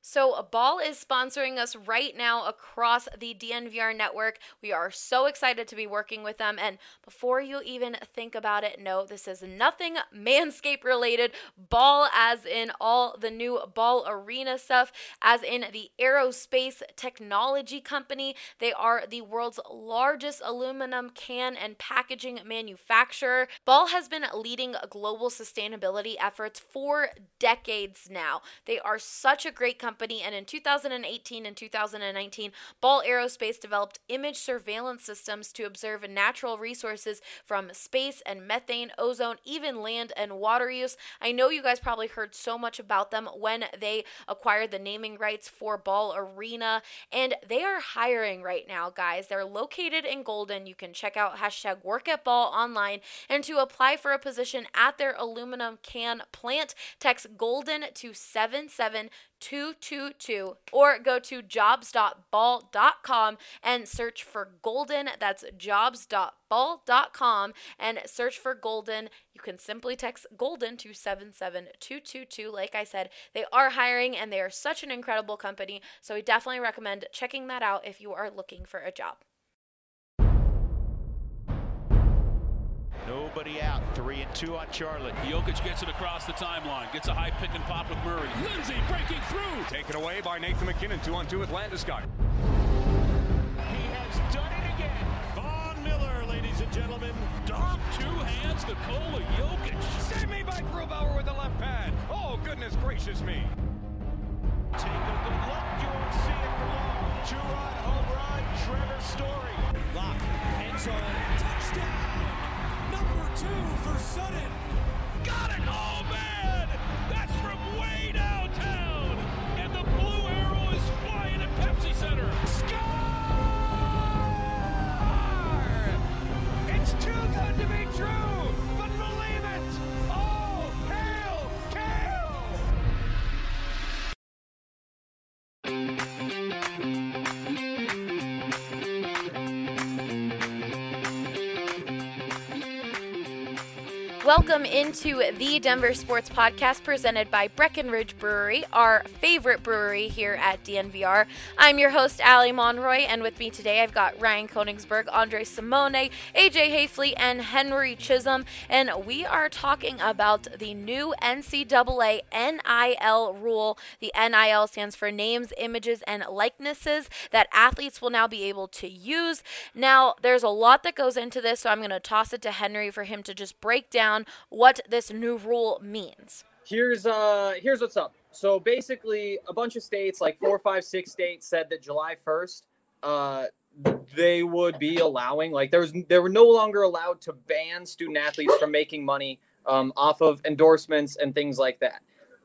So, Ball is sponsoring us right now across the DNVR network. We are so excited to be working with them. And before you even think about it, no, this is nothing Manscaped related. Ball, as in all the new Ball Arena stuff, as in the aerospace technology company. They are the world's largest aluminum can and packaging manufacturer. Ball has been leading global sustainability efforts for decades now. They are such a great company. And in 2018 and 2019, Ball Aerospace developed image surveillance systems to observe natural resources from space and methane, ozone, even land and water use. I know you guys probably heard so much about them when they acquired the naming rights for Ball Arena, and they are hiring right now, guys. They're located in Golden. You can check out #WorkAtBall online, and to apply for a position at their aluminum can plant, text Golden to 77222 or go to jobs.ball.com and search for Golden. That's jobs.ball.com and search for Golden. You can simply text Golden to 77222. Like I said, they are hiring and they are such an incredible company. So I definitely recommend checking that out if you are looking for a job. Nobody out. 3 and 2 on Charlotte. Jokic gets it across the timeline. Gets a high pick and pop with Murray. Lindsay breaking through. Taken away by Nathan McKinnon. 2-on-2 with Landeskog. He has done it again. Von Miller, ladies and gentlemen. Dom, 2 hands, Nikola Jokic. Save me by Grubauer with the left pad. Oh, goodness gracious me. Take a good look. You won't see it for long. 2-run home run. Trevor Story. Lock. End zone. Touchdown. Number 2 for Sutton. Got it! Oh, man! That's from way downtown! And the blue arrow is flying at Pepsi Center. Score! It's too good to be true, but believe it! Oh, hail, Kale! Welcome into the Denver Sports Podcast presented by Breckenridge Brewery, our favorite brewery here at DNVR. I'm your host, Allie Monroy, and with me today I've got Ryan Koenigsberg, Andre Simone, AJ Hayfley, and Henry Chisholm, and we are talking about the new NCAA NIL rule. The NIL stands for names, images, and likenesses that athletes will now be able to use. Now, there's a lot that goes into this, so I'm going to toss it to Henry for him to just break down what this new rule means. Here's what's up. So basically, a bunch of states, like 4, 5, 6 states, said that July 1st, they would be allowing, like they were no longer allowed to ban student athletes from making money off of endorsements and things like that.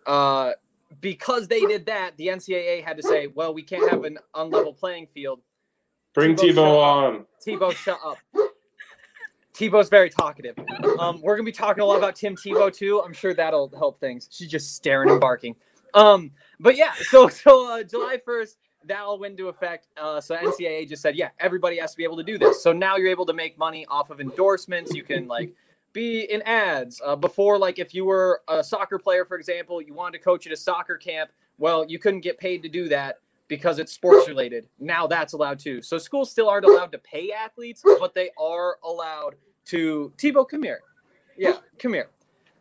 Because they did that, the NCAA had to say, well, we can't have an unlevel playing field. Bring Tebow on. Tebow, shut up. Tebow's very talkative. We're going to be talking a lot about Tim Tebow, too. I'm sure that'll help things. She's just staring and barking. But yeah, so July 1st, that'll went into effect. So NCAA just said, yeah, everybody has to be able to do this. So now you're able to make money off of endorsements. You can, like, be in ads. Before, like, if you were a soccer player, for example, you wanted to coach at a soccer camp, well, you couldn't get paid to do that because it's sports related. Now that's allowed too. So schools still aren't allowed to pay athletes, but they are allowed to Tebow, come here. Yeah, come here.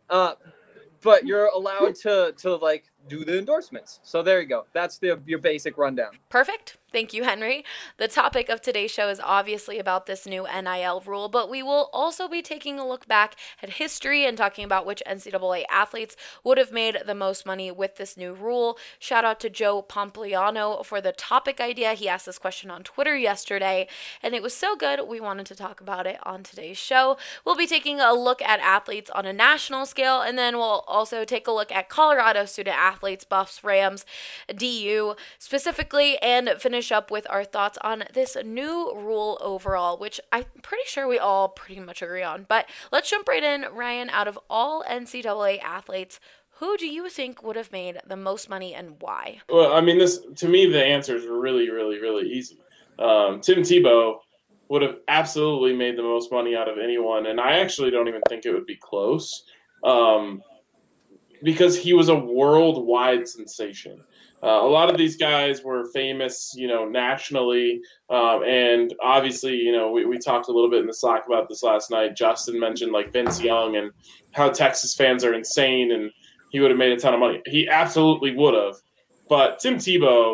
But you're allowed to like do the endorsements. So there you go. That's your basic rundown. Perfect. Thank you, Henry. The topic of today's show is obviously about this new NIL rule, but we will also be taking a look back at history and talking about which NCAA athletes would have made the most money with this new rule. Shout out to Joe Pompliano for the topic idea. He asked this question on Twitter yesterday, and it was so good we wanted to talk about it on today's show. We'll be taking a look at athletes on a national scale, and then we'll also take a look at Colorado student athletes, Buffs, Rams, DU specifically, and finish up with our thoughts on this new rule overall, which I'm pretty sure we all pretty much agree on. But let's jump right in. Ryan, out of all NCAA athletes, who do you think would have made the most money and why? Well, I mean, to me, the answer is really, really, really easy. Tim Tebow would have absolutely made the most money out of anyone, and I actually don't even think it would be close because he was a worldwide sensation. A lot of these guys were famous, nationally, and obviously, we talked a little bit in the Slack about this last night. Justin mentioned like Vince Young and how Texas fans are insane, and he would have made a ton of money. He absolutely would have, but Tim Tebow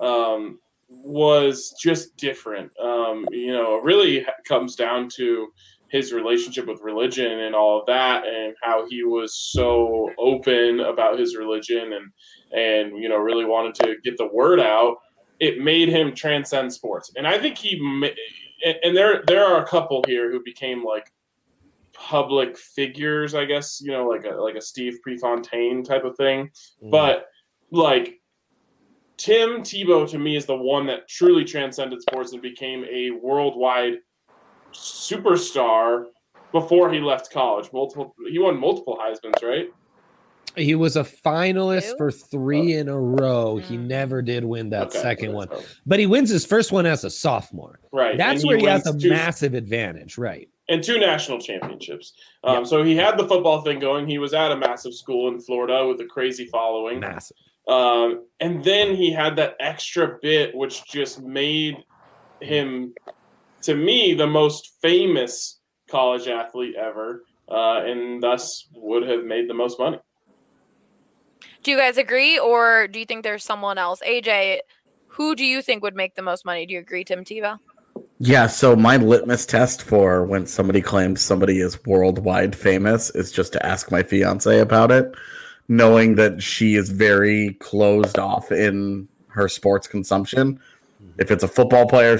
was just different. It really comes down to his relationship with religion and all of that, and how he was so open about his religion and really wanted to get the word out. It made him transcend sports. And I think and there are a couple here who became like public figures, I guess, like a Steve Prefontaine type of thing. But like Tim Tebow to me is the one that truly transcended sports and became a worldwide superstar before he left college. He won multiple Heismans, right? He was a finalist for 3 in a row. He never did win that second one. But he wins his first one as a sophomore. Right. That's where he has a massive advantage, right? And 2 national championships. So he had the football thing going. He was at a massive school in Florida with a crazy following. Massive. And then he had that extra bit, which just made him, to me, the most famous college athlete ever, and thus would have made the most money. Do you guys agree, or do you think there's someone else? AJ, who do you think would make the most money? Do you agree, Tim Tebow? Yeah, so my litmus test for when somebody claims somebody is worldwide famous is just to ask my fiance about it, knowing that she is very closed off in her sports consumption. If it's a football player,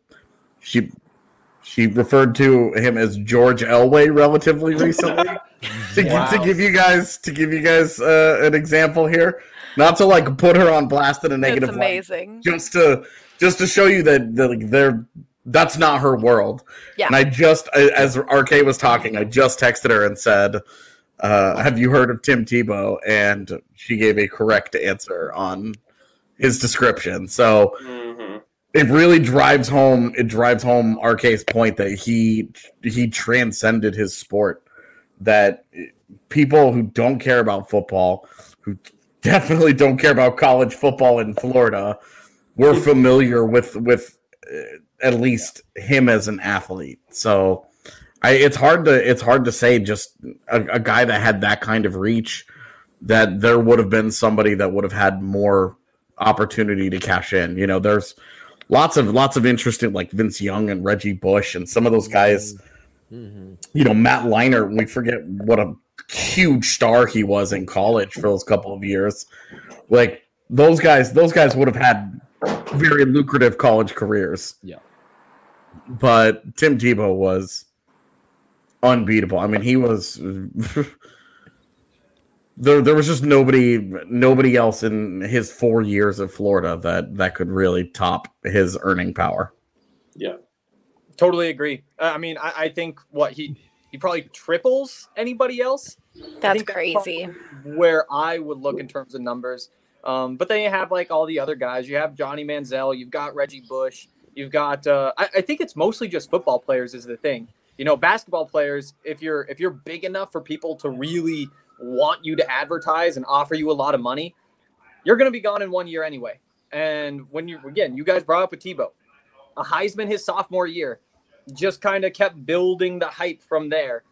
she referred to him as George Elway relatively recently. to give you guys an example here, not to like put her on blast in a negative It's amazing. light, just to show you that that's not her world. Yeah. And as RK was talking, I just texted her and said, have you heard of Tim Tebow? And she gave a correct answer on his description. So it really drives home RK's point that he transcended his sport, that people who don't care about football, who definitely don't care about college football in Florida, were familiar with at least him as an athlete. So it's hard to say just a guy that had that kind of reach, that there would have been somebody that would have had more opportunity to cash in. There's lots of interesting, like Vince Young and Reggie Bush and some of those guys. Matt Leinart, we forget what a huge star he was in college for those couple of years. Like those guys would have had very lucrative college careers. Yeah. But Tim Tebow was unbeatable. I mean, he was there was just nobody else in his 4 years of Florida that could really top his earning power. Yeah. Totally agree. I mean, I think he probably triples anybody else. That's crazy. Where I would look in terms of numbers. But then you have like all the other guys. You have Johnny Manziel. You've got Reggie Bush. You've got. I think it's mostly just football players is the thing. Basketball players. If you're big enough for people to really want you to advertise and offer you a lot of money, you're going to be gone in 1 year anyway. And when you guys brought up with Tebow, a Heisman his sophomore year. Just kind of kept building the hype from there.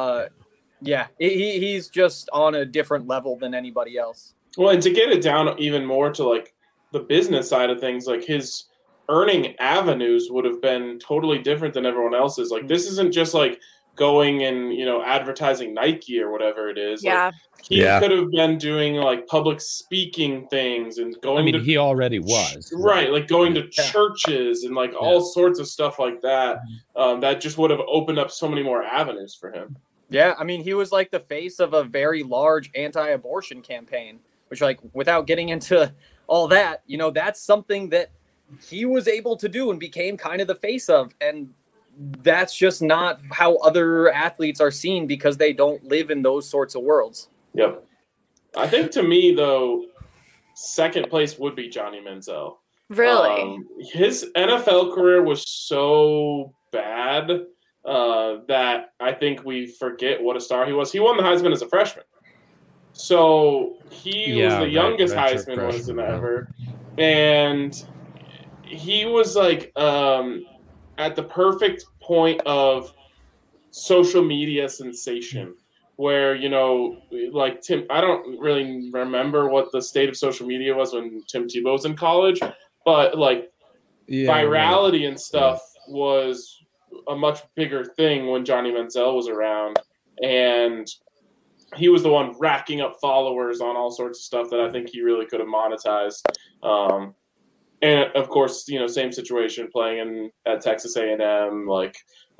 He's just on a different level than anybody else. Well, and to get it down even more to like the business side of things, like his earning avenues would have been totally different than everyone else's. Like this isn't just like going and advertising Nike or whatever it is. Yeah. Like, he could have been doing like public speaking things and going. I mean, he already was right, like going to churches and like all sorts of stuff like that. That just would have opened up so many more avenues for him. Yeah, I mean, he was like the face of a very large anti-abortion campaign, which, like, without getting into all that, that's something that he was able to do and became kind of the face of, and that's just not how other athletes are seen because they don't live in those sorts of worlds. Yep. I think to me, though, second place would be Johnny Manziel. Really? His NFL career was so bad that I think we forget what a star he was. He won the Heisman as a freshman. So he was the right, youngest redshirt Heisman winner freshman, yeah. ever, and he was like at the perfect point of social media sensation, where like Tim. I don't really remember what the state of social media was when Tim Tebow was in college, but like virality and stuff was a much bigger thing when Johnny Manziel was around, and he was the one racking up followers on all sorts of stuff that I think he really could have monetized. And of course, same situation playing at Texas A&M, like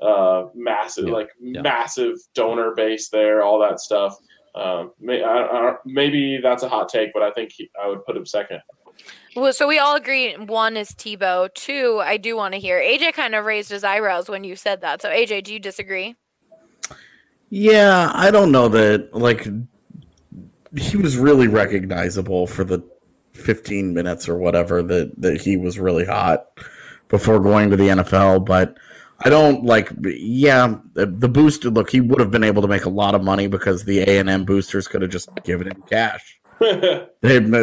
massive donor base there, all that stuff. Maybe that's a hot take, but I think I would put him second. Well, so we all agree 1 is Tebow. 2, I do want to hear. AJ kind of raised his eyebrows when you said that. So AJ, do you disagree? Yeah, I don't know that, like, he was really recognizable for the 15 minutes or whatever that he was really hot before going to the NFL, but I don't the boost. Look, he would have been able to make a lot of money because the A&M boosters could have just given him cash. But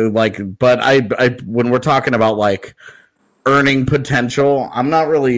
when we're talking about like earning potential, I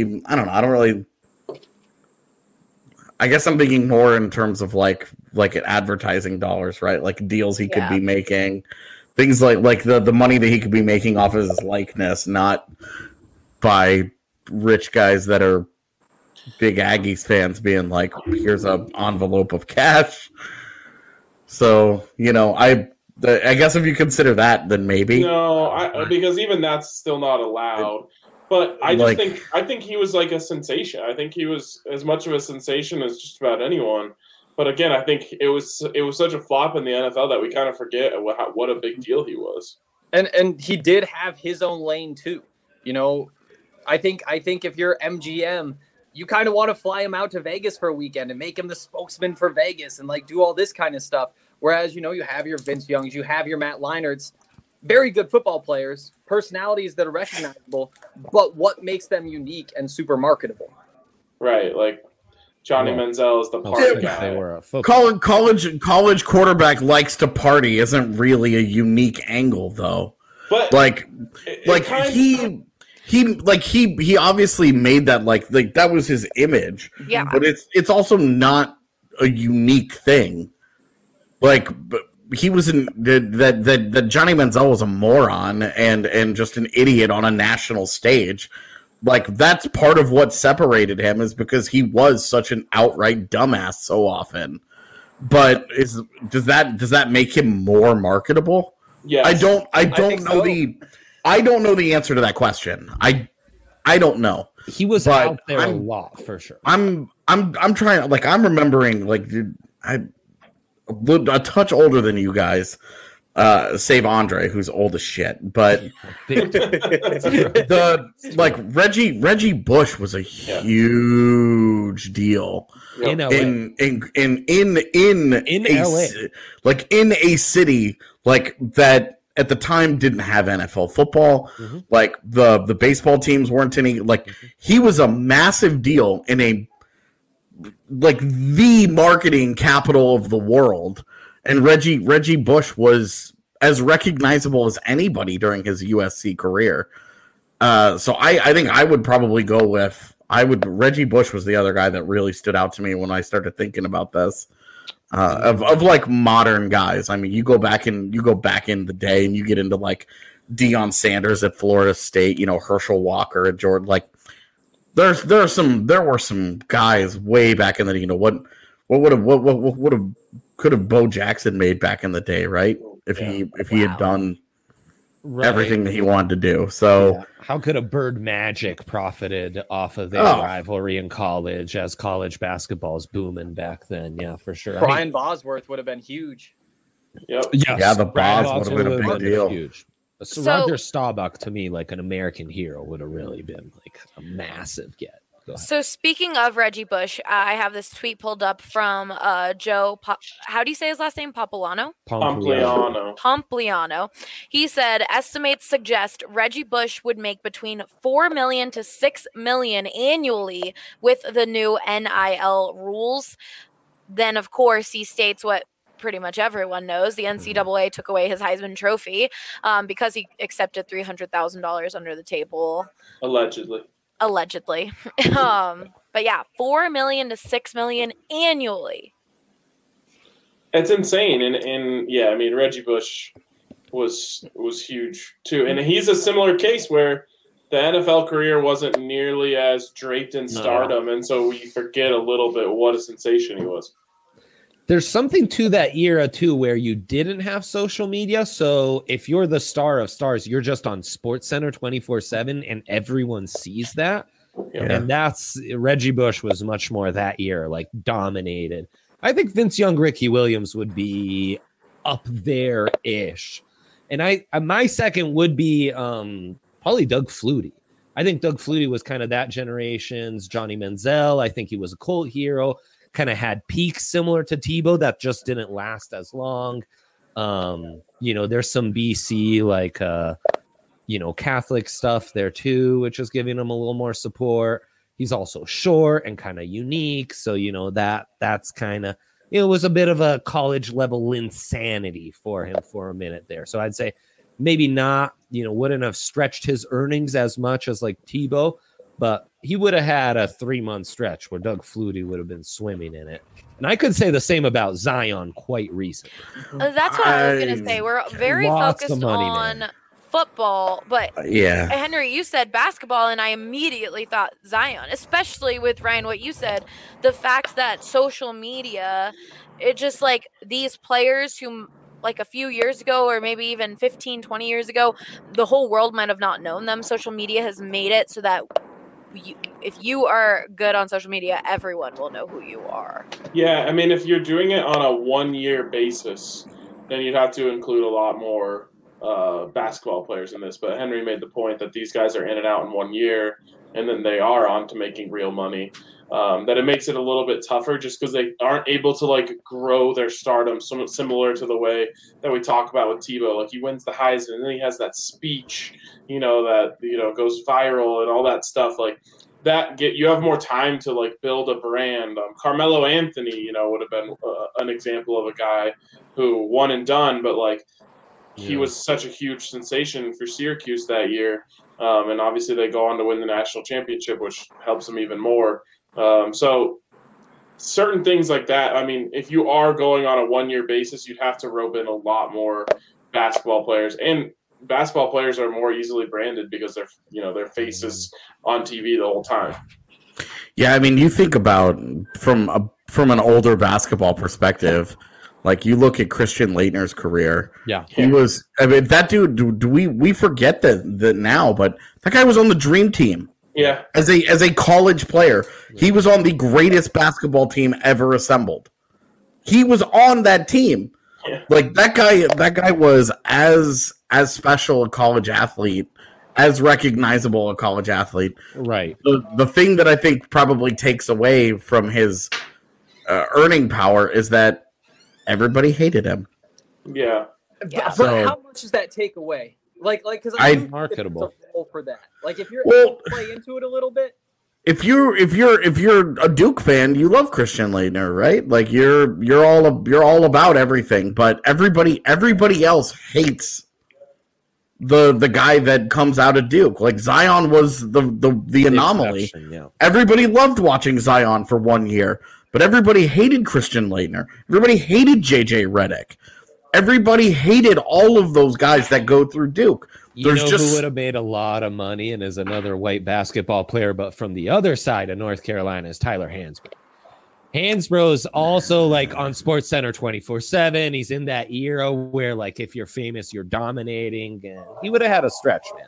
guess I'm thinking more in terms of like advertising dollars, right? Like deals he could be making, things like the money that he could be making off of his likeness, not by rich guys that are big Aggies fans being like, here's an envelope of cash. So, I guess if you consider that, then maybe. No, because even that's still not allowed. But I think he was like a sensation. I think he was as much of a sensation as just about anyone. But again, I think it was such a flop in the NFL that we kind of forget what a big deal he was. And he did have his own lane too. I think if you're MGM, you kind of want to fly him out to Vegas for a weekend and make him the spokesman for Vegas and like do all this kind of stuff. Whereas, you have your Vince Youngs, you have your Matt Leinerts, very good football players, personalities that are recognizable, but what makes them unique and super marketable? Right, like Johnny Manziel is the party guy. College quarterback likes to party isn't really a unique angle, though. But he obviously made that like that was his image. Yeah, but it's also not a unique thing. Like he was that Johnny Manziel was a moron and just an idiot on a national stage. Like that's part of what separated him is because he was such an outright dumbass so often. But does that make him more marketable? Yeah, I don't know I don't know the answer to that question. I don't know. He was out there a lot for sure. I'm trying, like, I'm remembering, like, dude, a touch older than you guys, save Andre, who's old as shit. But Reggie Bush was a huge deal in LA. in LA, like in a city like that. At the time, didn't have NFL football. Mm-hmm. Like the baseball teams weren't any. Like he was a massive deal in the marketing capital of the world, and Reggie Bush was as recognizable as anybody during his USC career. So I think I would probably go with Reggie Bush was the other guy that really stood out to me when I started thinking about this. Of like modern guys. I mean, you go back in the day and you get into like Deion Sanders at Florida State, Herschel Walker at Jordan. Like there were some guys way back in the could have Bo Jackson made back in the day, right? If he had done everything that he wanted to do. So how could a Bird Magic profited off of their rivalry in college as college basketball is booming back then? Yeah, for sure. Brian Bosworth would have been huge. Yep. Yes, yeah, the Bos would have been a big deal. Huge. So Roger Staubach, to me, like an American hero, would have really been like a massive get. So speaking of Reggie Bush, I have this tweet pulled up from Joe. How do you say his last name? Pompliano. He said estimates suggest Reggie Bush would make between $4 million to $6 million annually with the new NIL rules. Then, of course, he states what pretty much everyone knows, the NCAA took away his Heisman Trophy because he accepted $300,000 under the table. Allegedly. But yeah, $4 million to $6 million annually. It's insane. And yeah, I mean, Reggie Bush was huge too. And he's a similar case where the NFL career wasn't nearly as draped in stardom. And so we forget a little bit what a sensation he was. There's something to that era too, where you didn't have social media. So if you're the star of stars, you're just on SportsCenter 24/7 and everyone sees that. Yeah. And that's Reggie Bush was much more that year, like dominated. I think Vince Young, Ricky Williams would be up there-ish. And my second would be probably Doug Flutie. I think Doug Flutie was kind of that generation's Johnny Manziel. I think he was a cult hero, kind of had peaks similar to Tebow that just didn't last as long. There's some BC, like, Catholic stuff there too, which is giving him a little more support. He's also short and kind of unique. So, that's kind of, it was a bit of a college level insanity for him for a minute there. So I'd say maybe not, wouldn't have stretched his earnings as much as like Tebow, but he would have had a 3-month stretch where Doug Flutie would have been swimming in it. And I could say the same about Zion quite recently. That's what I was going to say. We're very focused on football, but Henry, you said basketball, and I immediately thought Zion, especially with Ryan, what you said, the fact that social media, it just like these players who like a few years ago or maybe even 15, 20 years ago, the whole world might have not known them. Social media has made it so that if you are good on social media, everyone will know who you are. Yeah, I mean, if you're doing it on a 1-year basis, then you'd have to include a lot more basketball players in this. But Henry made the point that these guys are in and out in 1 year, and then they are on to making real money. That it makes it a little bit tougher just because they aren't able to like grow their stardom, somewhat similar to the way that we talk about with Tebow. Like he wins the Heisman and then he has that speech, that goes viral and all that stuff. Like that you have more time to like build a brand. Carmelo Anthony, would have been an example of a guy who one and done, but like he was such a huge sensation for Syracuse that year. And obviously they go on to win the national championship, which helps them even more. So certain things like that, I mean, if you are going on a 1-year basis, you'd have to rope in a lot more basketball players, and basketball players are more easily branded because their faces on TV the whole time. Yeah. I mean, you think about from an older basketball perspective, like you look at Christian Laettner's career. Yeah. He was, I mean, that dude, we forget that now, but that guy was on the dream team. Yeah. As a college player, he was on the greatest basketball team ever assembled. He was on that team. Yeah. Like that guy was as special a college athlete, as recognizable a college athlete. Right. The thing that I think probably takes away from his earning power is that everybody hated him. Yeah. But So- how much does that take away? Like, because Marketable for that. Like, if you're Well- able to play into it a little bit. If you're a Duke fan, you love Christian Laettner, right? Like you're all about everything, but everybody else hates the guy that comes out of Duke. Like Zion was the anomaly. Yeah. Everybody loved watching Zion for 1 year, but everybody hated Christian Laettner. Everybody hated JJ Redick. Everybody hated all of those guys that go through Duke. Who would have made a lot of money and is another white basketball player, but from the other side of North Carolina is Tyler Hansbrough. Hansbrough's also like on SportsCenter 24/7. He's in that era where like if you're famous, you're dominating. And he would have had a stretch, man.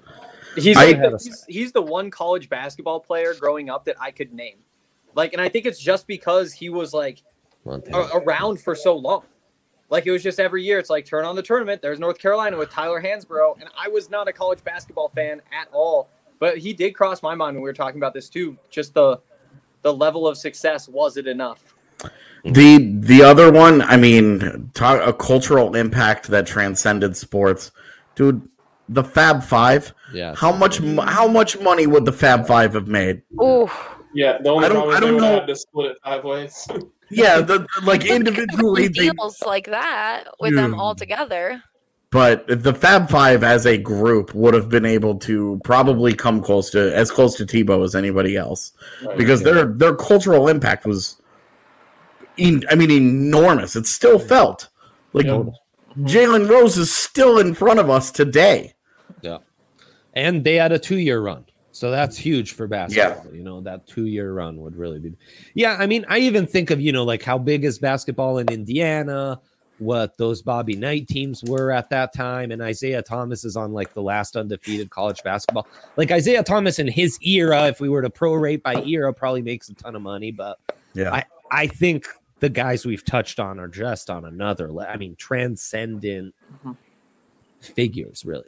He's the one college basketball player growing up that I could name. Like, and I think it's just because he was like around for so long. Like, it was just every year, it's like, turn on the tournament. There's North Carolina with Tyler Hansbrough. And I was not a college basketball fan at all. But he did cross my mind when we were talking about this, too. Just the level of success. Was it enough? The other one, I mean, a cultural impact that transcended sports. Dude, the Fab Five. Yeah. How much money would the Fab Five have made? Ooh. Yeah, the only problem is they don't would know. have to split it 5 ways. Yeah, like individually, deals like that with them all together. But the Fab Five as a group would have been able to probably come close to Tebow as anybody else, because their cultural impact was, enormous. It's still felt like Jalen Rose is still in front of us today. Yeah, and they had a 2-year run. So that's huge for basketball. Yeah. That 2-year run would really be. Yeah, I even think of, like how big is basketball in Indiana, what those Bobby Knight teams were at that time, and Isaiah Thomas is on like the last undefeated college basketball. Like Isaiah Thomas in his era, if we were to prorate by era, probably makes a ton of money. But yeah, I think the guys we've touched on are just on another transcendent figures, really.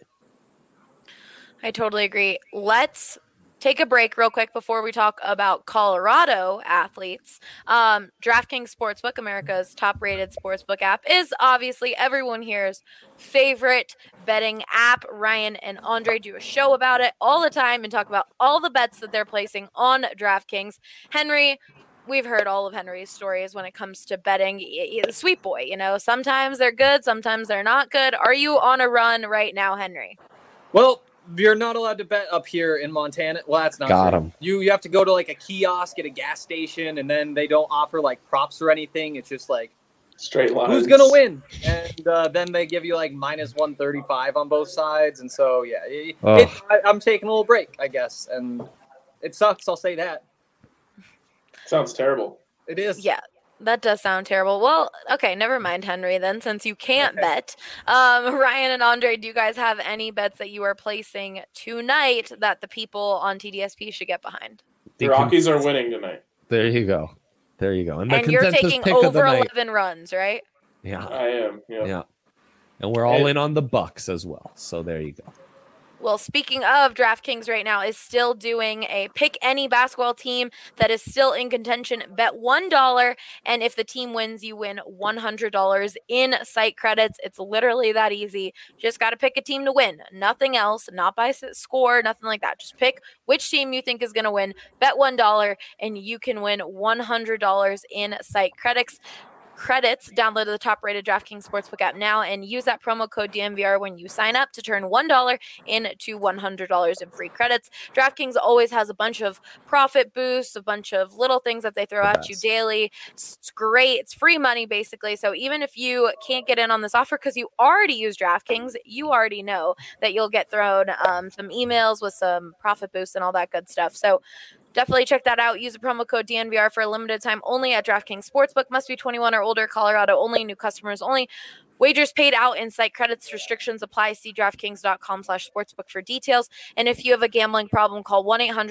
I totally agree. Let's take a break real quick before we talk about Colorado athletes. DraftKings Sportsbook, America's top-rated sportsbook app, is obviously everyone here's favorite betting app. Ryan and Andre do a show about it all the time and talk about all the bets that they're placing on DraftKings. Henry, we've heard all of Henry's stories when it comes to betting. The sweet boy, sometimes they're good, sometimes they're not good. Are you on a run right now, Henry? Well, you're not allowed to bet up here in Montana. Well, that's not Got true. him. You have to go to like a kiosk at a gas station, and then they don't offer like props or anything. It's just like straight lines. Who's gonna win? And then they give you like minus 135 on both sides, and so I'm taking a little break, I guess, and it sucks. I'll say that. Sounds terrible. It is. Yeah. That does sound terrible. Well, okay, never mind, Henry, then, since you can't bet. Ryan and Andre, do you guys have any bets that you are placing tonight that the people on TDSP should get behind? The Rockies are winning tonight. There you go. And you're taking over 11 runs, right? Yeah. I am. Yeah. And we're all in on the Bucks as well. So there you go. Well, speaking of, DraftKings right now is still doing a pick any basketball team that is still in contention. Bet $1, and if the team wins, you win $100 in site credits. It's literally that easy. Just got to pick a team to win. Nothing else, not by score, nothing like that. Just pick which team you think is going to win. Bet $1, and you can win $100 in site credits. Download the top-rated DraftKings Sportsbook app now and use that promo code DNVR when you sign up to turn $1 into $100 in free credits. DraftKings always has a bunch of profit boosts, a bunch of little things that they throw at you daily. It's great. It's free money, basically. So even if you can't get in on this offer because you already use DraftKings, you already know that you'll get thrown some emails with some profit boosts and all that good stuff. So definitely check that out. Use the promo code DNVR for a limited time only at DraftKings Sportsbook. Must be 21 or older. Colorado only. New customers only. Wagers paid out in site credits. Restrictions apply. See DraftKings.com/sportsbook for details. And if you have a gambling problem, call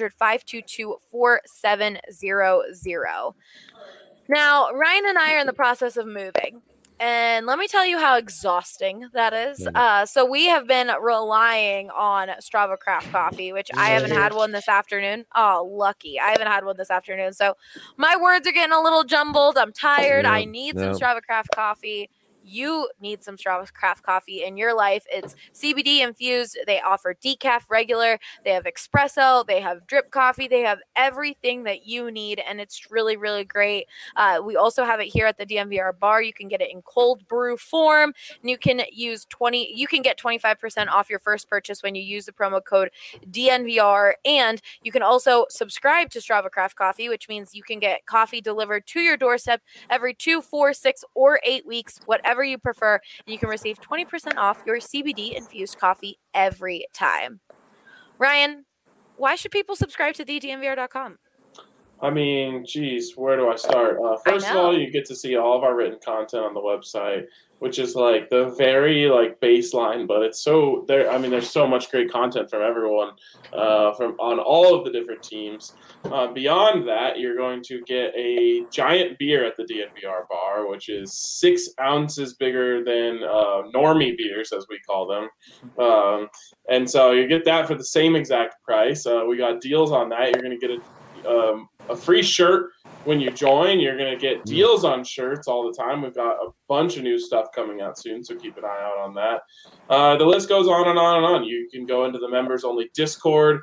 1-800-522-4700. Now, Ryan and I are in the process of moving. And let me tell you how exhausting that is. So we have been relying on Strava Craft Coffee, which I haven't had one this afternoon. Oh, lucky. I haven't had one this afternoon. So my words are getting a little jumbled. I'm tired. I need some Strava Craft Coffee. You need some Strava Craft Coffee in your life. It's CBD infused. They offer decaf regular. They have espresso. They have drip coffee. They have everything that you need, and it's really, really great. We also have it here at the DNVR bar. You can get it in cold brew form, and you can get 25% off your first purchase when you use the promo code DNVR, and you can also subscribe to Strava Craft Coffee, which means you can get coffee delivered to your doorstep every 2, 4, 6, or 8 weeks, whatever you prefer, and you can receive 20% off your CBD infused coffee every time. Ryan, why should people subscribe to thednvr.com? I mean, geez, where do I start? First of all, you get to see all of our written content on the website, which is like the very baseline, but it's so there. I mean, there's so much great content from everyone, from on all of the different teams. Beyond that, you're going to get a giant beer at the DNVR bar, which is 6 ounces bigger than normie beers, as we call them. And so you get that for the same exact price. We got deals on that. You're going to get a free shirt when you join. You're going to get deals on shirts all the time. We've got a bunch of new stuff coming out soon, so keep an eye out on that. The list goes on and on and on. You can go into the members-only Discord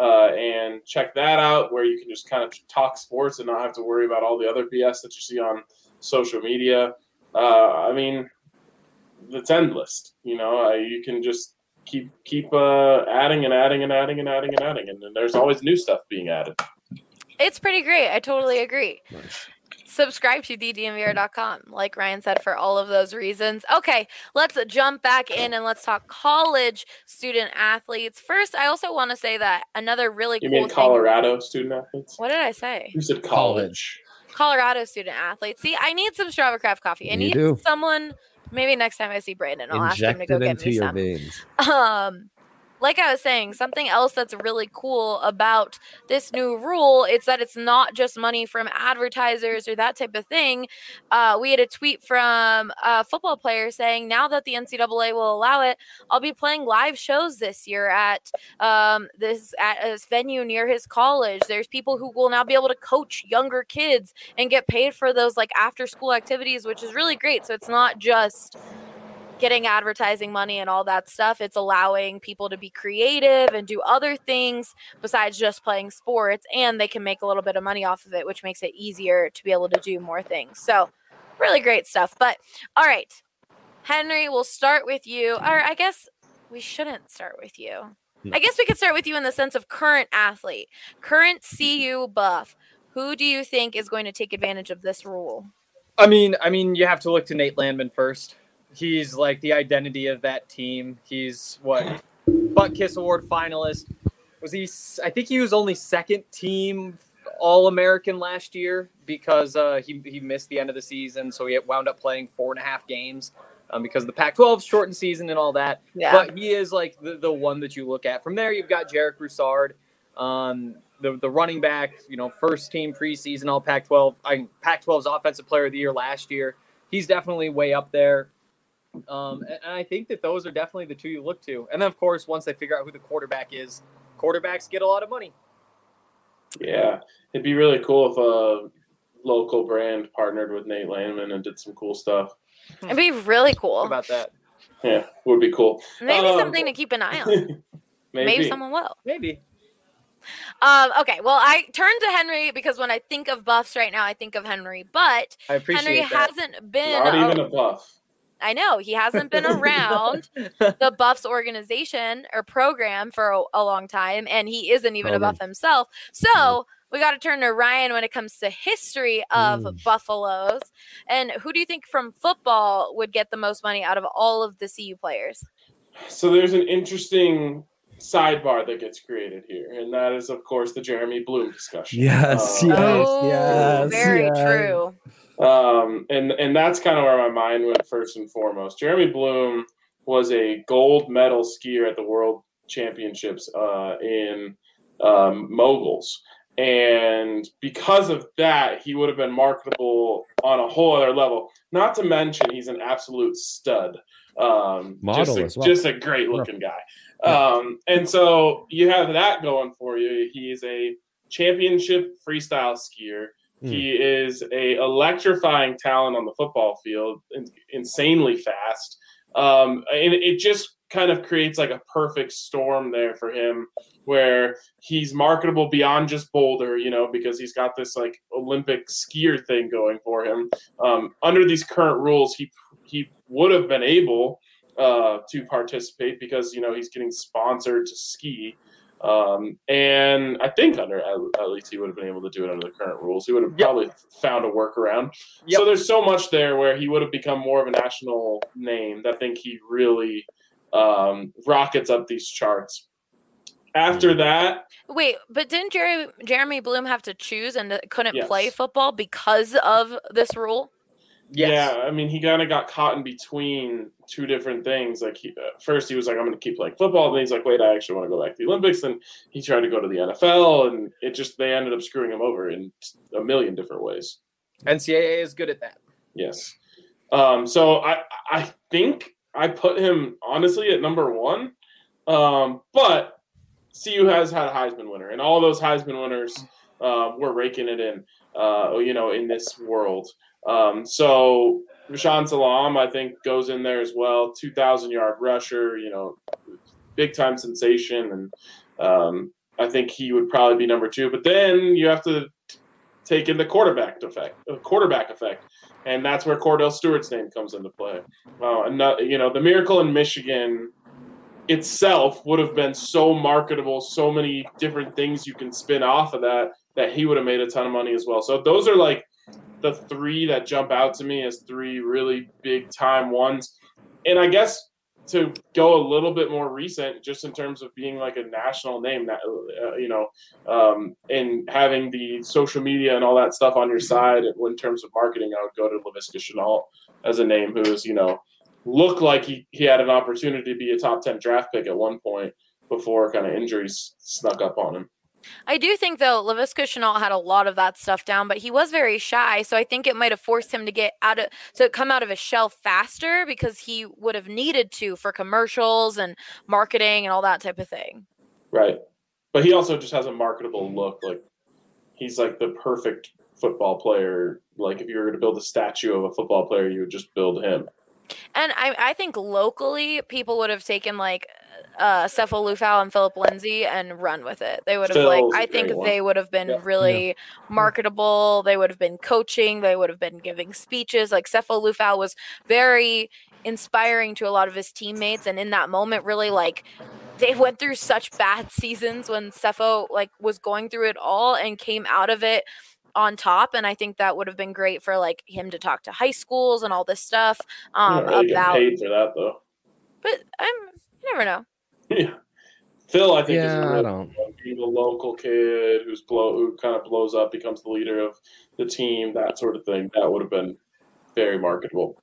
and check that out, where you can just kind of talk sports and not have to worry about all the other BS that you see on social media. I mean, it's endless. You can just keep adding and adding and adding and adding and adding, and then there's always new stuff being added. It's pretty great. I totally agree. Nice. Subscribe to thednvr.com, like Ryan said, for all of those reasons. Okay, let's jump back in and let's talk college student athletes. First, I also want to say that another really cool thing. You mean Colorado student athletes? What did I say? You said college. Colorado student athletes. See, I need some Strava Craft coffee. I need someone. Maybe next time I see Brandon, I'll ask him to go get me some. Veins. Like I was saying, something else that's really cool about this new rule is that it's not just money from advertisers or that type of thing. We had a tweet from a football player saying, now that the NCAA will allow it, I'll be playing live shows this year at this venue near his college. There's people who will now be able to coach younger kids and get paid for those like after school activities, which is really great. So it's not just getting advertising money and all that stuff. It's allowing people to be creative and do other things besides just playing sports, and they can make a little bit of money off of it, which makes it easier to be able to do more things. So really great stuff. But all right, Henry, we'll start with you. Or I guess we shouldn't start with you. I guess we could start with you in the sense of current athlete, current CU buff. Who do you think is going to take advantage of this rule? I mean, you have to look to Nate Landman first. He's like the identity of that team. He's Butt Kiss Award finalist. I think he was only second team All-American last year because he missed the end of the season. So he wound up playing 4.5 games because of the Pac-12 shortened season and all that. Yeah. But he is like the one that you look at. From there, you've got Jarek Broussard, the running back, first team preseason All Pac-12. Pac-12's Offensive Player of the Year last year. He's definitely way up there. And I think that those are definitely the two you look to. And then, of course, once they figure out who the quarterback is, quarterbacks get a lot of money. Yeah, it'd be really cool if a local brand partnered with Nate Landman and did some cool stuff. It'd be really cool. How about that? Yeah, would be cool. Maybe something to keep an eye on. Maybe someone will. Maybe. Okay, well, I turn to Henry because when I think of buffs right now, I think of Henry. But Henry hasn't been not even a buff. I know he hasn't been around the Buffs organization or program for a long time, and he isn't even a Buff himself. So we got to turn to Ryan when it comes to history of Buffaloes. And who do you think from football would get the most money out of all of the CU players? So there's an interesting sidebar that gets created here, and that is, of course, the Jeremy Bloom discussion. Yes. Very true. And that's kind of where my mind went first and foremost. Jeremy Bloom was a gold medal skier at the World Championships in moguls. And because of that, he would have been marketable on a whole other level. Not to mention, he's an absolute stud. Model as well. Just a great looking guy. And so you have that going for you. He's a championship freestyle skier. He is a electrifying talent on the football field, insanely fast. And it just kind of creates like a perfect storm there for him where he's marketable beyond just Boulder, because he's got this like Olympic skier thing going for him. Under these current rules, he would have been able to participate because, he's getting sponsored to ski. And I think at least he would have been able to do it under the current rules. He would have probably found a workaround. Yep. So there's so much there where he would have become more of a national name that I think he really rockets up these charts. After that... Wait, but didn't Jeremy Bloom have to choose and couldn't play football because of this rule? Yes. Yeah, I mean, he kind of got caught in between two different things. Like, first he was like, I'm going to keep playing football. And then he's like, wait, I actually want to go back to the Olympics. And he tried to go to the NFL, and they ended up screwing him over in a million different ways. NCAA is good at that. Yes. So I think I put him, honestly, at number one. But CU has had a Heisman winner, and all those Heisman winners we're raking it in, in this world. So Rashaan Salam, I think, goes in there as well. 2,000-yard rusher, big time sensation, and I think he would probably be number 2. But then you have to take in the quarterback effect, and that's where Cordell Stewart's name comes into play. The Miracle in Michigan itself would have been so marketable, so many different things you can spin off of that he would have made a ton of money as well. So those are like the 3 that jump out to me as 3 really big time ones. And I guess to go a little bit more recent, just in terms of being like a national name, that and having the social media and all that stuff on your side in terms of marketing, I would go to Laviska Shenault as a name who is, looked like he had an opportunity to be a top 10 draft pick at one point before kind of injuries snuck up on him. I do think, though, Laviska Shenault had a lot of that stuff down, but he was very shy, so I think it might have forced him to come out of his shell faster because he would have needed to for commercials and marketing and all that type of thing. Right. But he also just has a marketable look. Like, he's like the perfect football player. Like, if you were going to build a statue of a football player, you would just build him. And I think locally, people would have taken, like, Sefo Lufau and Philip Lindsay and run with it. They would have they would have been really marketable. They would have been coaching. They would have been giving speeches. Like, Sefo Lufau was very inspiring to a lot of his teammates. And in that moment, really, like, they went through such bad seasons when Sefo, like, was going through it all and came out of it on top, and I think that would have been great for like him to talk to high schools and all this stuff really about paid for that though. But you never know. Yeah, Phil, I think is being a local kid who kind of blows up, becomes the leader of the team, that sort of thing. That would have been very marketable.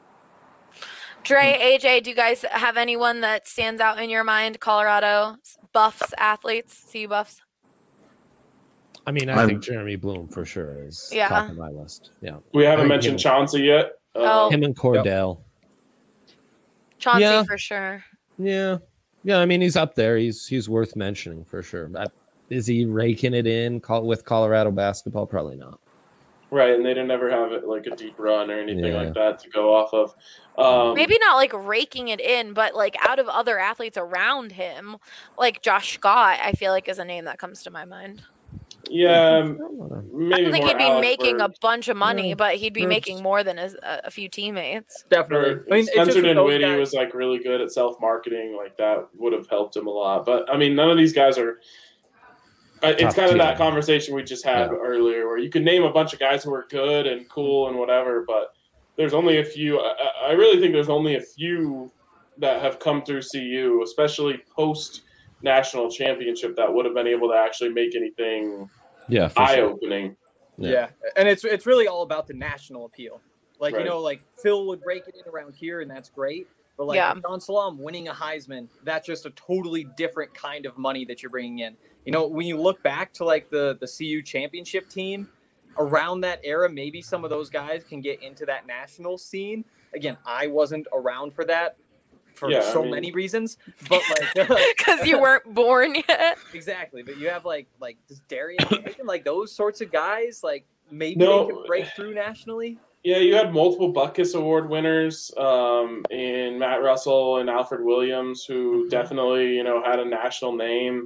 Dre, AJ, do you guys have anyone that stands out in your mind? Colorado Buffs athletes, CU Buffs. I mean, I think Jeremy Bloom for sure is top of my list. Yeah, we haven't mentioned Chauncey yet. Him and Cordell. Chauncey for sure. Yeah. I mean, he's up there. He's worth mentioning for sure. Is he raking it in with Colorado basketball? Probably not. Right, and they didn't ever have it like a deep run or anything like that to go off of. Maybe not like raking it in, but like out of other athletes around him, like Josh Scott, I feel like is a name that comes to my mind. Yeah, maybe I don't think he'd be Alex making Bird. a bunch of money, but he'd be making more than a few teammates. Definitely. I mean, Spencer Dinwiddie was like really good at self-marketing. Like that would have helped him a lot. But I mean, none of these guys are. It's kind of that conversation we just had earlier, where you can name a bunch of guys who are good and cool and whatever, but there's only a few. I really think there's only a few that have come through CU, especially post national championship, that would have been able to actually make anything eye-opening. Yeah, and it's really all about the national appeal. Like, like Phil would rake it in around here, and that's great. But like John Salam winning a Heisman, that's just a totally different kind of money that you're bringing in. When you look back to like the CU championship team around that era, maybe some of those guys can get into that national scene. Again, I wasn't around for that for many reasons, but like because you weren't born yet. Exactly, but you have like this Darius Hamilton, like those sorts of guys, like maybe they could break through nationally. Yeah, you had multiple Butkus Award winners in Matt Russell and Alfred Williams, who definitely had a national name.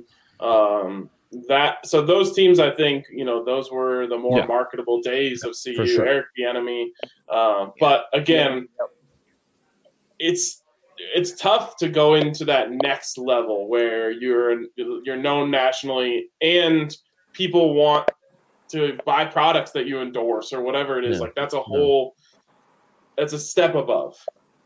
So those teams, I think, those were the more marketable days of CU. Sure. Eric Bieniemy, but again, it's tough to go into that next level where you're known nationally and people want to buy products that you endorse or whatever it is. Like that's that's a step above.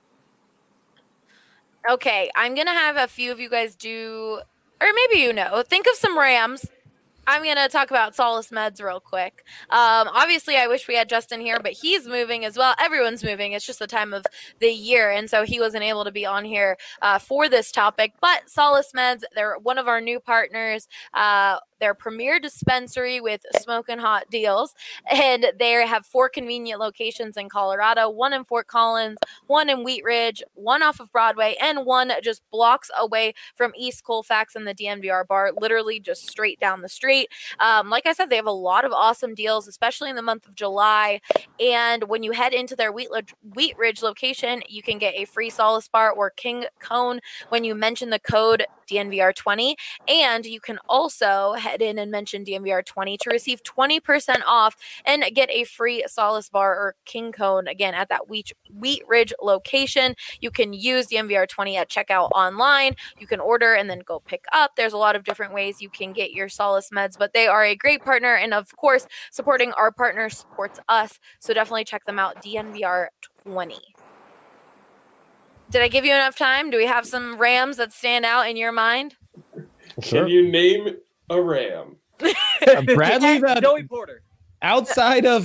Okay, I'm gonna have a few of you guys do. Or maybe think of some Rams. I'm going to talk about Solis Meds real quick. Obviously, I wish we had Justin here, but he's moving as well. Everyone's moving. It's just the time of the year, and so he wasn't able to be on here for this topic. But Solis Meds, they're one of our new partners. Their premier dispensary with smoking hot deals, and they have 4 convenient locations in Colorado, 1 in Fort Collins, 1 in Wheat Ridge, 1 off of Broadway, and 1 just blocks away from East Colfax and the DNVR bar, literally just straight down the street. great. Like I said, they have a lot of awesome deals, especially in the month of July. And when you head into their Wheat Ridge location, you can get a free Solace Bar or King Cone when you mention the code DNVR20. And you can also head in and mention DNVR20 to receive 20% off and get a free Solace Bar or King Cone, again, at that Wheat Ridge location. You can use DNVR20 at checkout online. You can order and then go pick up. There's a lot of different ways you can get your Solace meds, but they are a great partner. And of course, supporting our partners supports us. So definitely check them out, DNVR20. Did I give you enough time? Do we have some Rams that stand out in your mind? Can you name a Ram? Bradley Joey Porter. outside of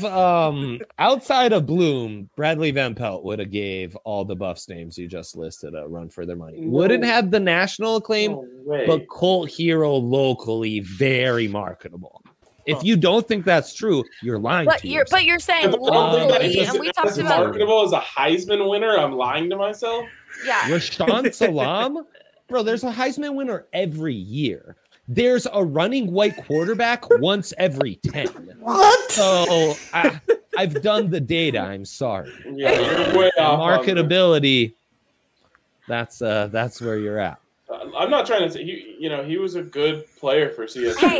Bloom, Bradley Van Pelt would have gave all the Buffs names you just listed a run for their money. Wouldn't have the national acclaim, but Colt Hero locally very marketable. If you don't think that's true, you're lying to yourself. But you're saying locally, and we talked about marketable as a Heisman winner. I'm lying to myself. Yeah, Rashaan Salam, bro. There's a Heisman winner every year. There's a running white quarterback once every 10. What? So I've done the data. I'm sorry. Yeah, you're way off. Marketability. That's where you're at. I'm not trying to say he was a good player for CSU. Hey,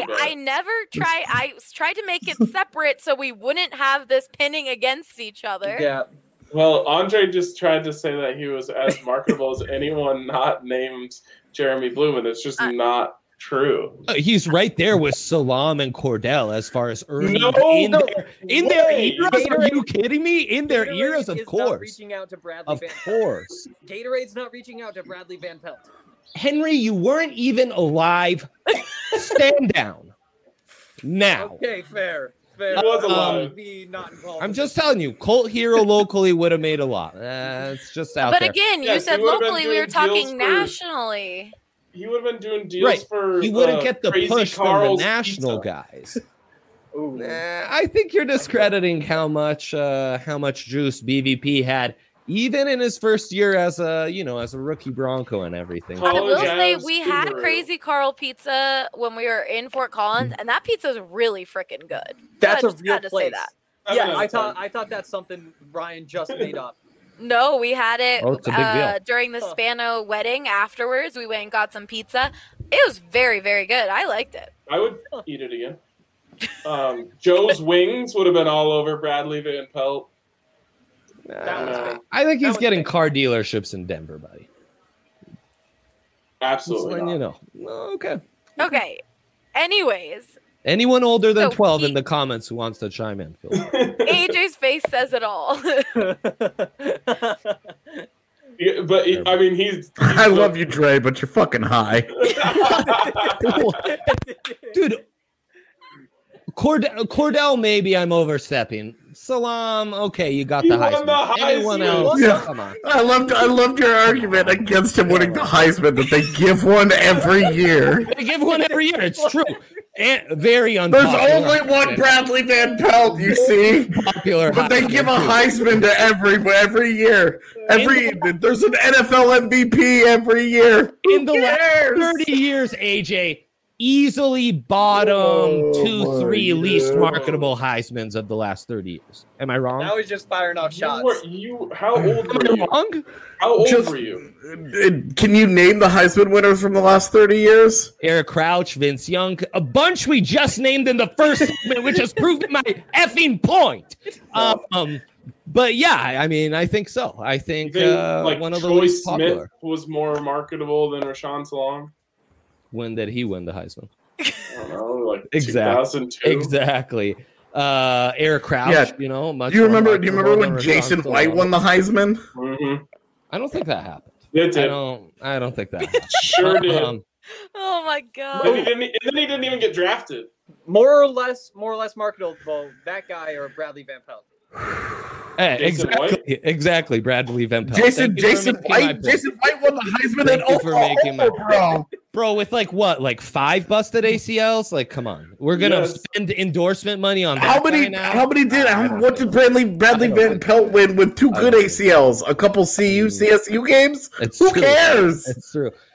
I tried to make it separate so we wouldn't have this pinning against each other. Yeah. Well, Andre just tried to say that he was as marketable as anyone not named Jeremy Bloom, and it's just not true. He's right there with Salam and Cordell as far as earning in their eras. Are you kidding me? In their eras, of course. Not reaching out to Bradley Van Pelt. Of course. Gatorade's not reaching out to Bradley Van Pelt. Henry, you weren't even alive. Stand down. Now. Okay, fair. He was alive. I'm just telling you, Colt Hero locally would have made a lot. It's just out there. But again, you said locally. We were talking nationally. He would have been doing deals for. He wouldn't get the push Carl's from the national pizza. guys. I think you're discrediting how much juice BVP had, even in his first year as a rookie Bronco and everything. I will say we had Crazy Carl pizza when we were in Fort Collins, and that pizza is really freaking good. That's a real place. Say that. Yeah, I thought that's something Ryan just made up. No, we had it it's a big deal. during the Spano wedding. Afterwards, we went and got some pizza. It was very, very good. I liked it. I would eat it again. Joe's Wings would have been all over Bradley Van Pelt. I think he's getting car dealerships in Denver, buddy. Absolutely. Just letting you know. Okay. Okay. Anyways. Anyone older than 12 in the comments who wants to chime in, Phil. AJ's face says it all. Yeah, but I mean, he's I love you, Dre, but you're fucking high. Dude, Cordell, maybe I'm overstepping. Salam, okay, you got the Heisman. Anyone else? Yeah. Come on. I loved your argument against him winning the Heisman that they give one every year. They give one every year. It's true. And very unpopular. There's only one Bradley Van Pelt, you see. Popular, but they give a Heisman to every year. There's an NFL MVP every year. In the last 30 years, AJ, easily bottom 2-3 least marketable Heismans of the last 30 years. Am I wrong? Now he's just firing off shots. How old were you? Wrong? How old were you? Can you name the Heisman winners from the last 30 years? Eric Crouch, Vince Young, a bunch we just named in the first segment, which has proved my effing point. But yeah, I mean, I think so. I think one of the least popular. Smith was more marketable than Rashaan Salam. When did he win the Heisman? I don't know, like exactly. 2002. Exactly. Eric Crouch, much. Do you remember when Jason White won the Heisman? Mm-hmm. I don't think that happened. It did. I don't think that happened. Sure did. Oh my god. And then he didn't even get drafted. More or less marketable, that guy or Bradley Van Pelt. Hey, exactly. Bradley Van Pelt. Jason White won the Heisman in Oklahoma, bro. With like 5 busted ACLs. Like, come on, we're gonna spend endorsement money on that. What did Bradley Van Pelt win with 2 good ACLs? A couple CSU games? Who cares? It's true.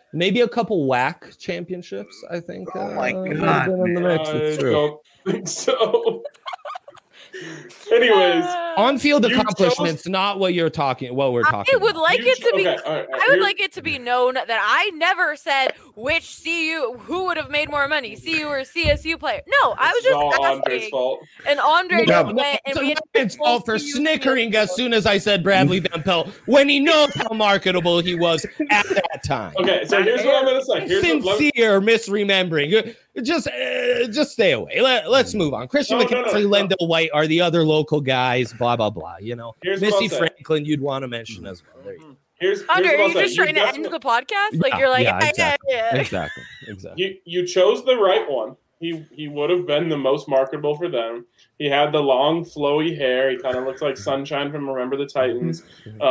Maybe a couple WAC championships, I think. Oh my might have God, been in the mix. I It's true. don't think so. Anyways, On-field You accomplishments, not what we're talking I about. would like it to be. okay, all right, I would like it to be known that I never said which CU who would have made more money, CU or CSU player. No, I was It's all just Andre's asking. fault. And Andre No, just went and So we had Ryan's fault for CU snickering as soon as I said Bradley Van Pelt when he knows how marketable he was at that time. Okay, so here's what I'm gonna say. Sincere misremembering. Just stay away. Let's move on. Christian No, McCaffrey, no. Lendell White are the other local guys. Blah blah blah. You know, Here's what Missy I'll say. Franklin, you'd want to mention as well. There you go. Here's Andre, what are I'll you say. just trying to end the podcast? Like Yeah, you're like, yeah, exactly. yeah. Exactly. You chose the right one. He would have been the most marketable for them. He had the long, flowy hair. He kind of looks like Sunshine from Remember the Titans.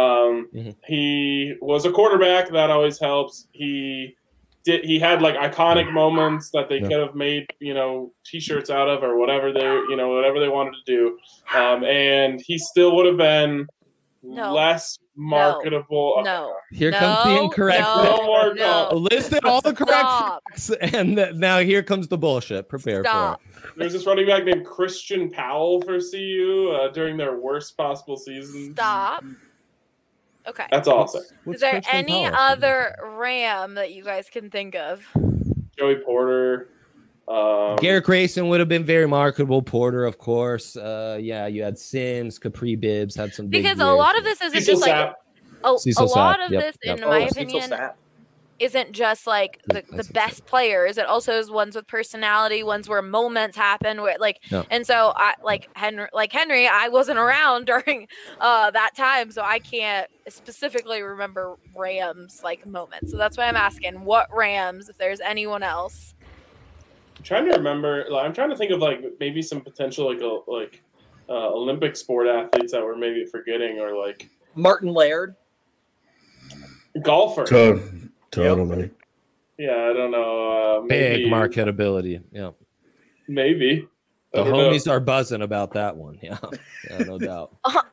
He was a quarterback. That always helps. He had like iconic moments that they could have made, T-shirts out of or whatever whatever they wanted to do. And he still would have been less marketable. No. Here comes the incorrect. Listed all the correct Stop. facts, and now here comes the bullshit. Prepare Stop. for it. There's this running back named Christian Powell for CU during their worst possible season. Stop. Okay. That's all I'll say. Is there any other Ram that you guys can think of? Joey Porter. Garrett Grayson would have been very marketable. Porter, of course. You had Sims, Capri Bibbs had some big Because a years. lot of this isn't Cecil just like Sapp. a Cecil lot Sapp, of yep, this, yep. in my Cecil opinion, Sapp. isn't just like the best players. It also is ones with personality, ones where moments happen. Where and so I Henry, I wasn't around during that time, so I can't specifically remember Rams like moments. So that's why I'm asking, what Rams? If there's anyone else. I'm trying to remember. I'm trying to think of like maybe some potential Olympic sport athletes that we're maybe forgetting, or like Martin Laird. golfer. Totally. Yeah, I don't know. Maybe, big marketability. Yeah. Maybe. The I don't know. homies are buzzing about that one. Yeah, no doubt.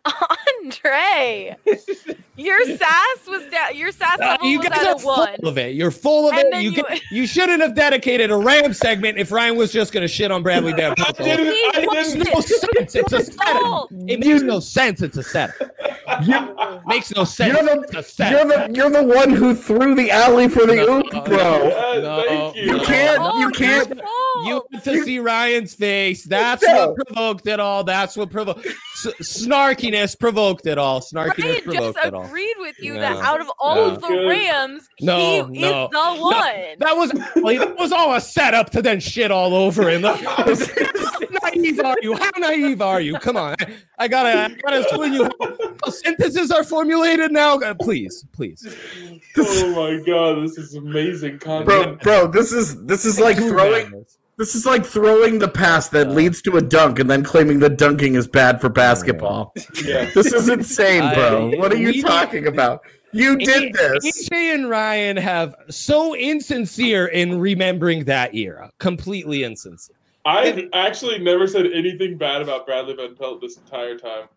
Andre, your sass was down. Your sass level You was guys at are a 1. full of it. You're full of And it. then You shouldn't have dedicated a Ram segment if Ryan was just going to shit on Bradley Van Pelt. I Makes didn't. no sense. It's a setup. Oh. It makes no sense. It's a setup. Makes no sense. It's a setup. You're the one who threw the alley for the No, oop, bro. Thank you. You can't. Oh, you can't. your fault. You want to see Ryan's face. That's No. what provoked it all. That's what provoked. Snarkiness provoked it all. Snarkiness Ryan provoked just it all. agreed with you No. that out of all No. of the Good. Rams, No, he no. is the one. That was all a setup to then shit all over him. How naive are you? How naive are you? Come on, I gotta explain you how sentences are formulated now. Please. Oh my god, this is amazing content. Bro, this is like throwing. This is like throwing the pass that leads to a dunk and then claiming that dunking is bad for basketball. Yeah. This is insane, bro. What are you talking about? You did this. AJ and Ryan have so insincere in remembering that era. Completely insincere. I've actually never said anything bad about Bradley Van Pelt this entire time.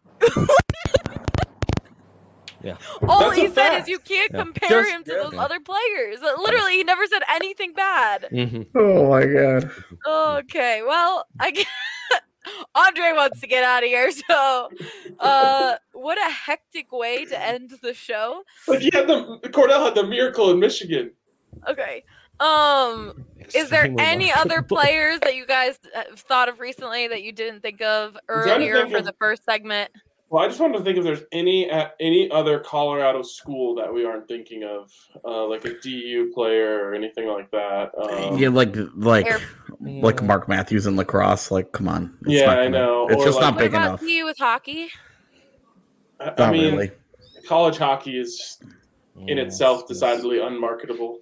Yeah. All That's he a said fact. is you can't Yeah. compare Just- him to those other players. Literally, he never said anything bad. Oh my god. Okay, well, Andre wants to get out of here, so what a hectic way to end the show. Like Cordell had the miracle in Michigan. Okay. Is there Extremely any other marketable. players that you guys have thought of recently that you didn't think of trying to earlier think for of- the first segment? Well, I just wanted to think if there's any other Colorado school that we aren't thinking of, like a DU player or anything like that. Yeah, like Air- Mark Matthews in lacrosse. Like, come on. It's Yeah, not I gonna- know. It's Or just like- not What big about enough. you with hockey? I Not mean, really. college hockey is in itself decidedly unmarketable.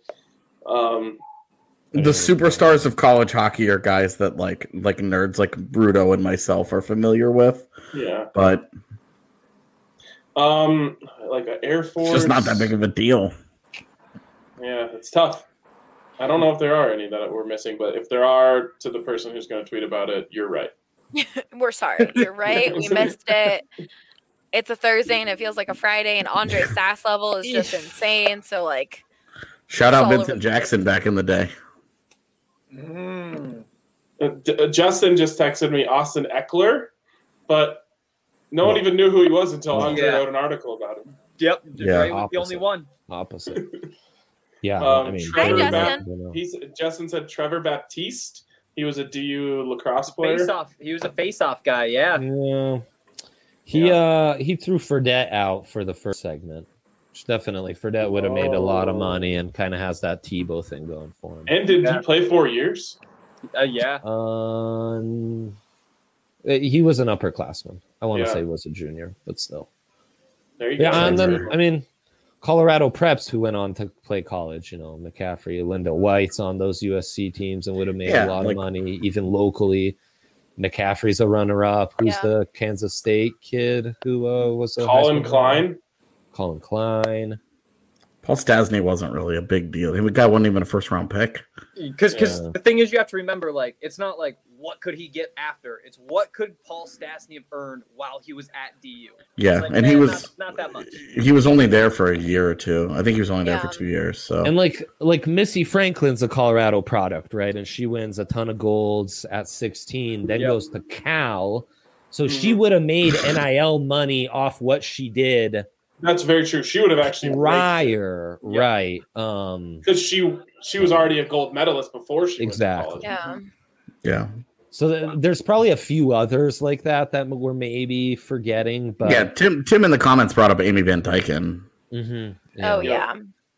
The superstars of college hockey are guys that like nerds like Bruto and myself are familiar with, Yeah. but like an Air Force. it's just not that big of a deal. Yeah, it's tough. I don't know if there are any that we're missing, but if there are, to the person who's going to tweet about it, you're right. We're sorry. You're right. We missed it. It's a Thursday and it feels like a Friday, and Andre's sass level is just insane. So, like, Shout It's out all over Vincent the Jackson back in the day. Justin just texted me Austin Eckler, but no one even knew who he was until Unger wrote an article about him. Yep. Yeah, Ray was the only one. Opposite. Yeah, I mean, Trevor Hi, Justin. Justin said Trevor Baptiste. He was a DU lacrosse player. Face-off. He was a face-off guy. Yeah. Yeah. He threw Fredette out for the first segment. Which definitely, Fredette would have made a lot of money and kind of has that Tebow thing going for him. And did he play 4 years? Yeah. He was an upperclassman. I want to say he was a junior, but still. There you go. Yeah, and then I mean, Colorado Preps, who went on to play college, McCaffrey, Linda White's on those USC teams and would have made a lot of money, even locally. McCaffrey's a runner-up. Who's the Kansas State kid who was a Colin Klein? Colin Klein. Paul Stasny wasn't really a big deal. The guy wasn't even a first-round pick. Because the thing is, you have to remember, like, it's not like what could he get after. It's what could Paul Stasny have earned while he was at DU. Yeah, like, and he was not that much. He was only there for a year or two. I think he was only there for 2 years. So and like Missy Franklin's a Colorado product, right? And she wins a ton of golds at 16, then goes to Cal. So she would have made NIL money off what she did. That's very true. She would have actually prior, right? Because she was already a gold medalist before she went to college. Yeah. So there's probably a few others like that we're maybe forgetting. But yeah, Tim in the comments brought up Amy Van Dyken. Mm-hmm. Oh yeah.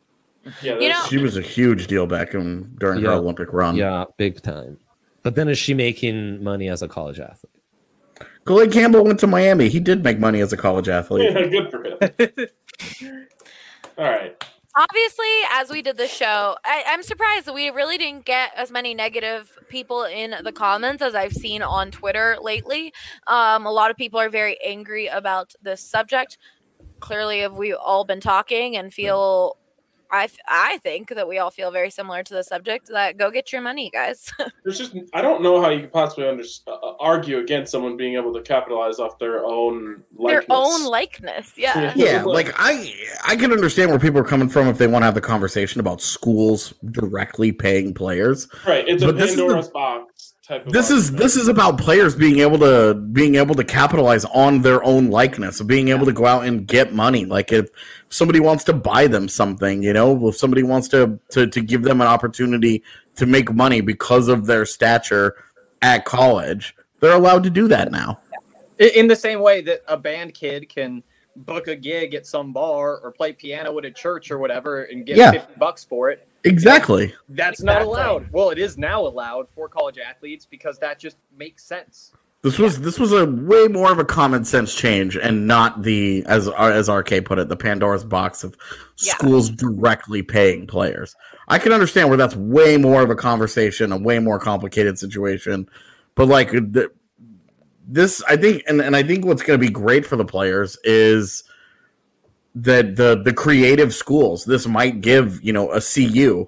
She was a huge deal back during her Olympic run. Yeah, big time. But then is she making money as a college athlete? Glenn Campbell went to Miami. He did make money as a college athlete. Yeah, good for him. All right. Obviously, as we did the show, I'm surprised that we really didn't get as many negative people in the comments as I've seen on Twitter lately. A lot of people are very angry about this subject. Clearly, we've all been talking and feel... I think that we all feel very similar to the subject. That go get your money, guys. I don't know how you could possibly argue against someone being able to capitalize off their own likeness. Yeah. Yeah, like I can understand where people are coming from if they want to have the conversation about schools directly paying players. Right, it's a Pandora's box type of This is about players being able to capitalize on their own likeness, of being able to go out and get money. Like if somebody wants to buy them something, if somebody wants to give them an opportunity to make money because of their stature at college, they're allowed to do that now. In the same way that a band kid can book a gig at some bar or play piano at a church or whatever and get $50 for it. Exactly. That's not allowed. Well, it is now allowed for college athletes because that just makes sense. This was a way more of a common sense change and not the, as RK put it, the Pandora's box of schools directly paying players. I can understand where that's way more of a conversation, a way more complicated situation. But like this, I think, and I think what's going to be great for the players is that the creative schools, this might give, a CU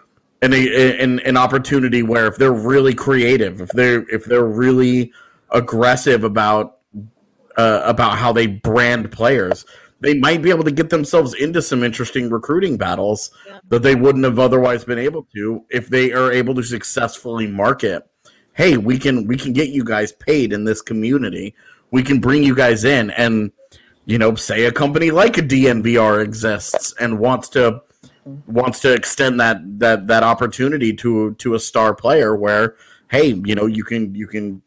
an opportunity where if they're really creative, if they're really aggressive about how they brand players, they might be able to get themselves into some interesting recruiting battles that they wouldn't have otherwise been able to if they are able to successfully market. Hey, we can get you guys paid in this community. We can bring you guys in, and say a company like a DNVR exists and wants to extend that opportunity to a star player where, hey, you can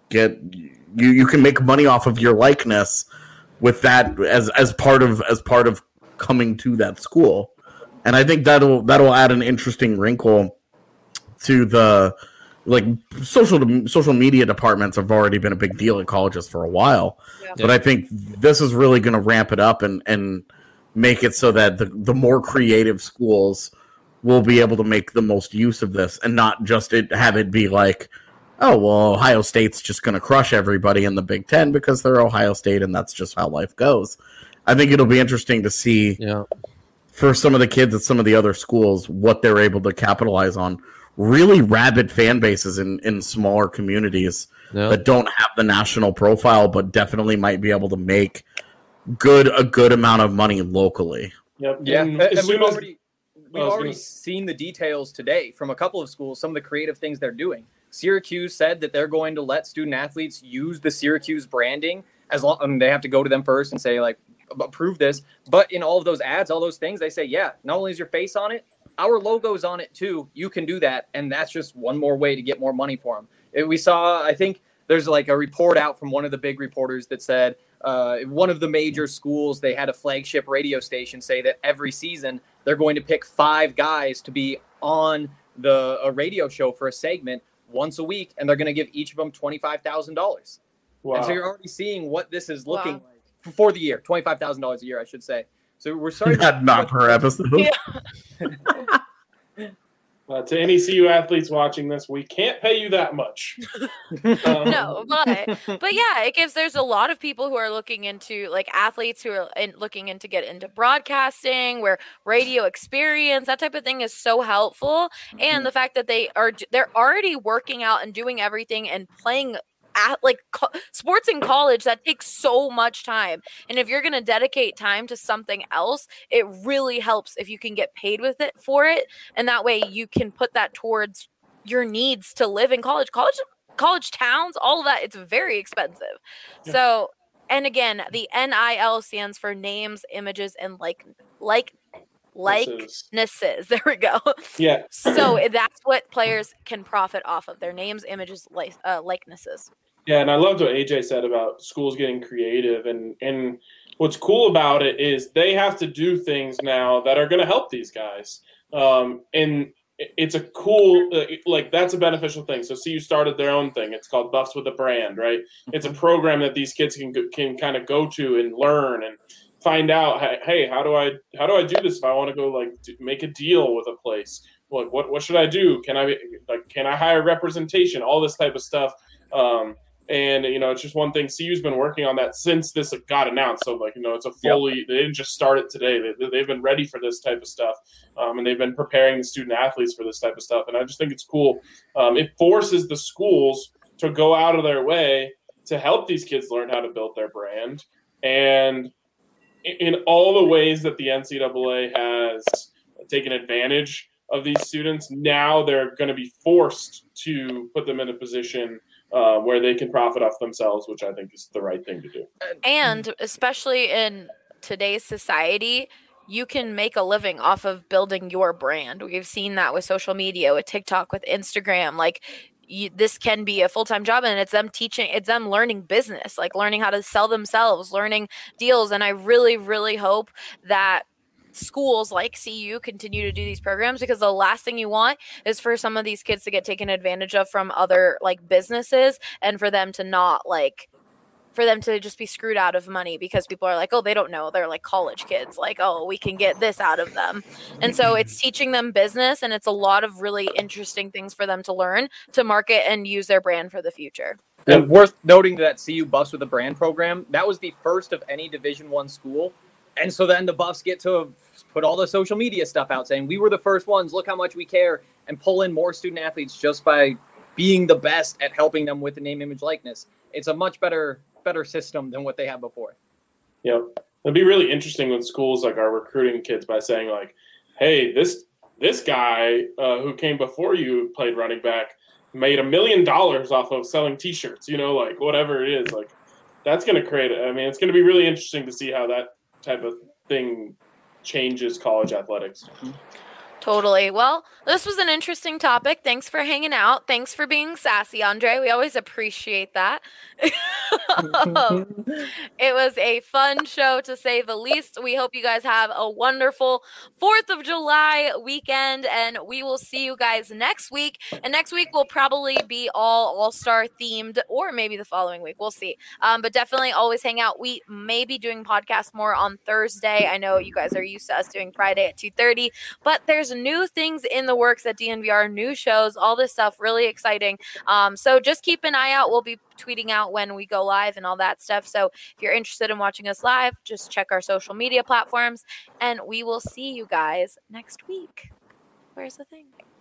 make money off of your likeness with that as part of coming to that school. And I think that'll add an interesting wrinkle to the social media departments have already been a big deal at colleges for a while. Yeah. But I think this is really going to ramp it up and make it so that the more creative schools will be able to make the most use of this and not just have it be like, oh, well, Ohio State's just going to crush everybody in the Big Ten because they're Ohio State and that's just how life goes. I think it'll be interesting to see for some of the kids at some of the other schools what they're able to capitalize on. Really rabid fan bases in smaller communities that don't have the national profile but definitely might be able to make a good amount of money locally. Yep. Yeah, and we've already seen the details today from a couple of schools, some of the creative things they're doing. Syracuse said that they're going to let student athletes use the Syracuse branding as long. I mean, they have to go to them first and say, like, approve this. But in all of those ads, all those things, they say, yeah, not only is your face on it, our logo's on it too. You can do that. And that's just one more way to get more money for them. We saw, I think there's like a report out from one of the big reporters that said one of the major schools, they had a flagship radio station say that every season they're going to pick 5 guys to be on a radio show for a segment once a week, and they're going to give each of them $25,000. Wow. And so you're already seeing what this is looking like for the year, $25,000 a year, I should say. So we're sorry. Not per episode. Yeah. To any CU athletes watching this, we can't pay you that much. No, but yeah, there's a lot of people who are looking into, like, athletes who are looking into get into broadcasting, where radio experience, that type of thing is so helpful. And the fact that they're already working out and doing everything and playing at sports in college, that takes so much time. And if you're going to dedicate time to something else, it really helps if you can get paid with it for it. And that way you can put that towards your needs to live in college towns, all of that. It's very expensive. Yeah. So, and again, the NIL stands for names, images, and likenesses. There we go. Yeah. So that's what players can profit off of: their names, images, likenesses. Yeah, and I loved what AJ said about schools getting creative, and what's cool about it is they have to do things now that are going to help these guys, and it's a cool, that's a beneficial thing. So CU started their own thing. It's called Buffs with a Brand, right? It's a program that these kids can kind of go to and learn and find out, hey, how do I do this if I want to go make a deal with a place? What should I do? Can I hire representation? All this type of stuff. And it's just one thing. CU's been working on that since this got announced. So it's a fully. They didn't just start it today. They've been ready for this type of stuff, and they've been preparing the student athletes for this type of stuff. And I just think it's cool. It forces the schools to go out of their way to help these kids learn how to build their brand. And in all the ways that the NCAA has taken advantage of these students, now they're going to be forced to put them in a position where they can profit off themselves, which I think is the right thing to do. And especially in today's society, you can make a living off of building your brand. We've seen that with social media, with TikTok, with Instagram. This can be a full-time job, and it's them learning business, learning how to sell themselves, learning deals. And I really, really hope that schools like CU continue to do these programs, because the last thing you want is for some of these kids to get taken advantage of from other businesses, and for them to just be screwed out of money because people are they don't know, they're college kids, we can get this out of them. And so it's teaching them business, and it's a lot of really interesting things for them to learn to market and use their brand for the future. And worth noting that CU Buffs with a Brand program, that was the first of any Division I school. And so then the Buffs get to put all the social media stuff out saying, we were the first ones, look how much we care, and pull in more student athletes just by being the best at helping them with the name, image, likeness. It's a much better system than what they had before. Yeah. It'd be really interesting when schools are recruiting kids by saying hey, this guy who came before you played running back made $1 million off of selling t-shirts, whatever it is. That's going to create it's going to be really interesting to see how that type of thing changes college athletics. Totally. Well, this was an interesting topic. Thanks for hanging out. Thanks for being sassy, Andre. We always appreciate that. It was a fun show, to say the least. We hope you guys have a wonderful 4th of July weekend, and we will see you guys next week. And next week will probably be all-star themed, or maybe the following week. We'll see. But definitely always hang out. We may be doing podcasts more on Thursday. I know you guys are used to us doing Friday at 2:30, but there's new things in the works at DNVR, new shows, all this stuff, really exciting. So just keep an eye out. We'll be tweeting out when we go live and all that stuff. So if you're interested in watching us live, just check our social media platforms, and we will see you guys next week. Where's the thing?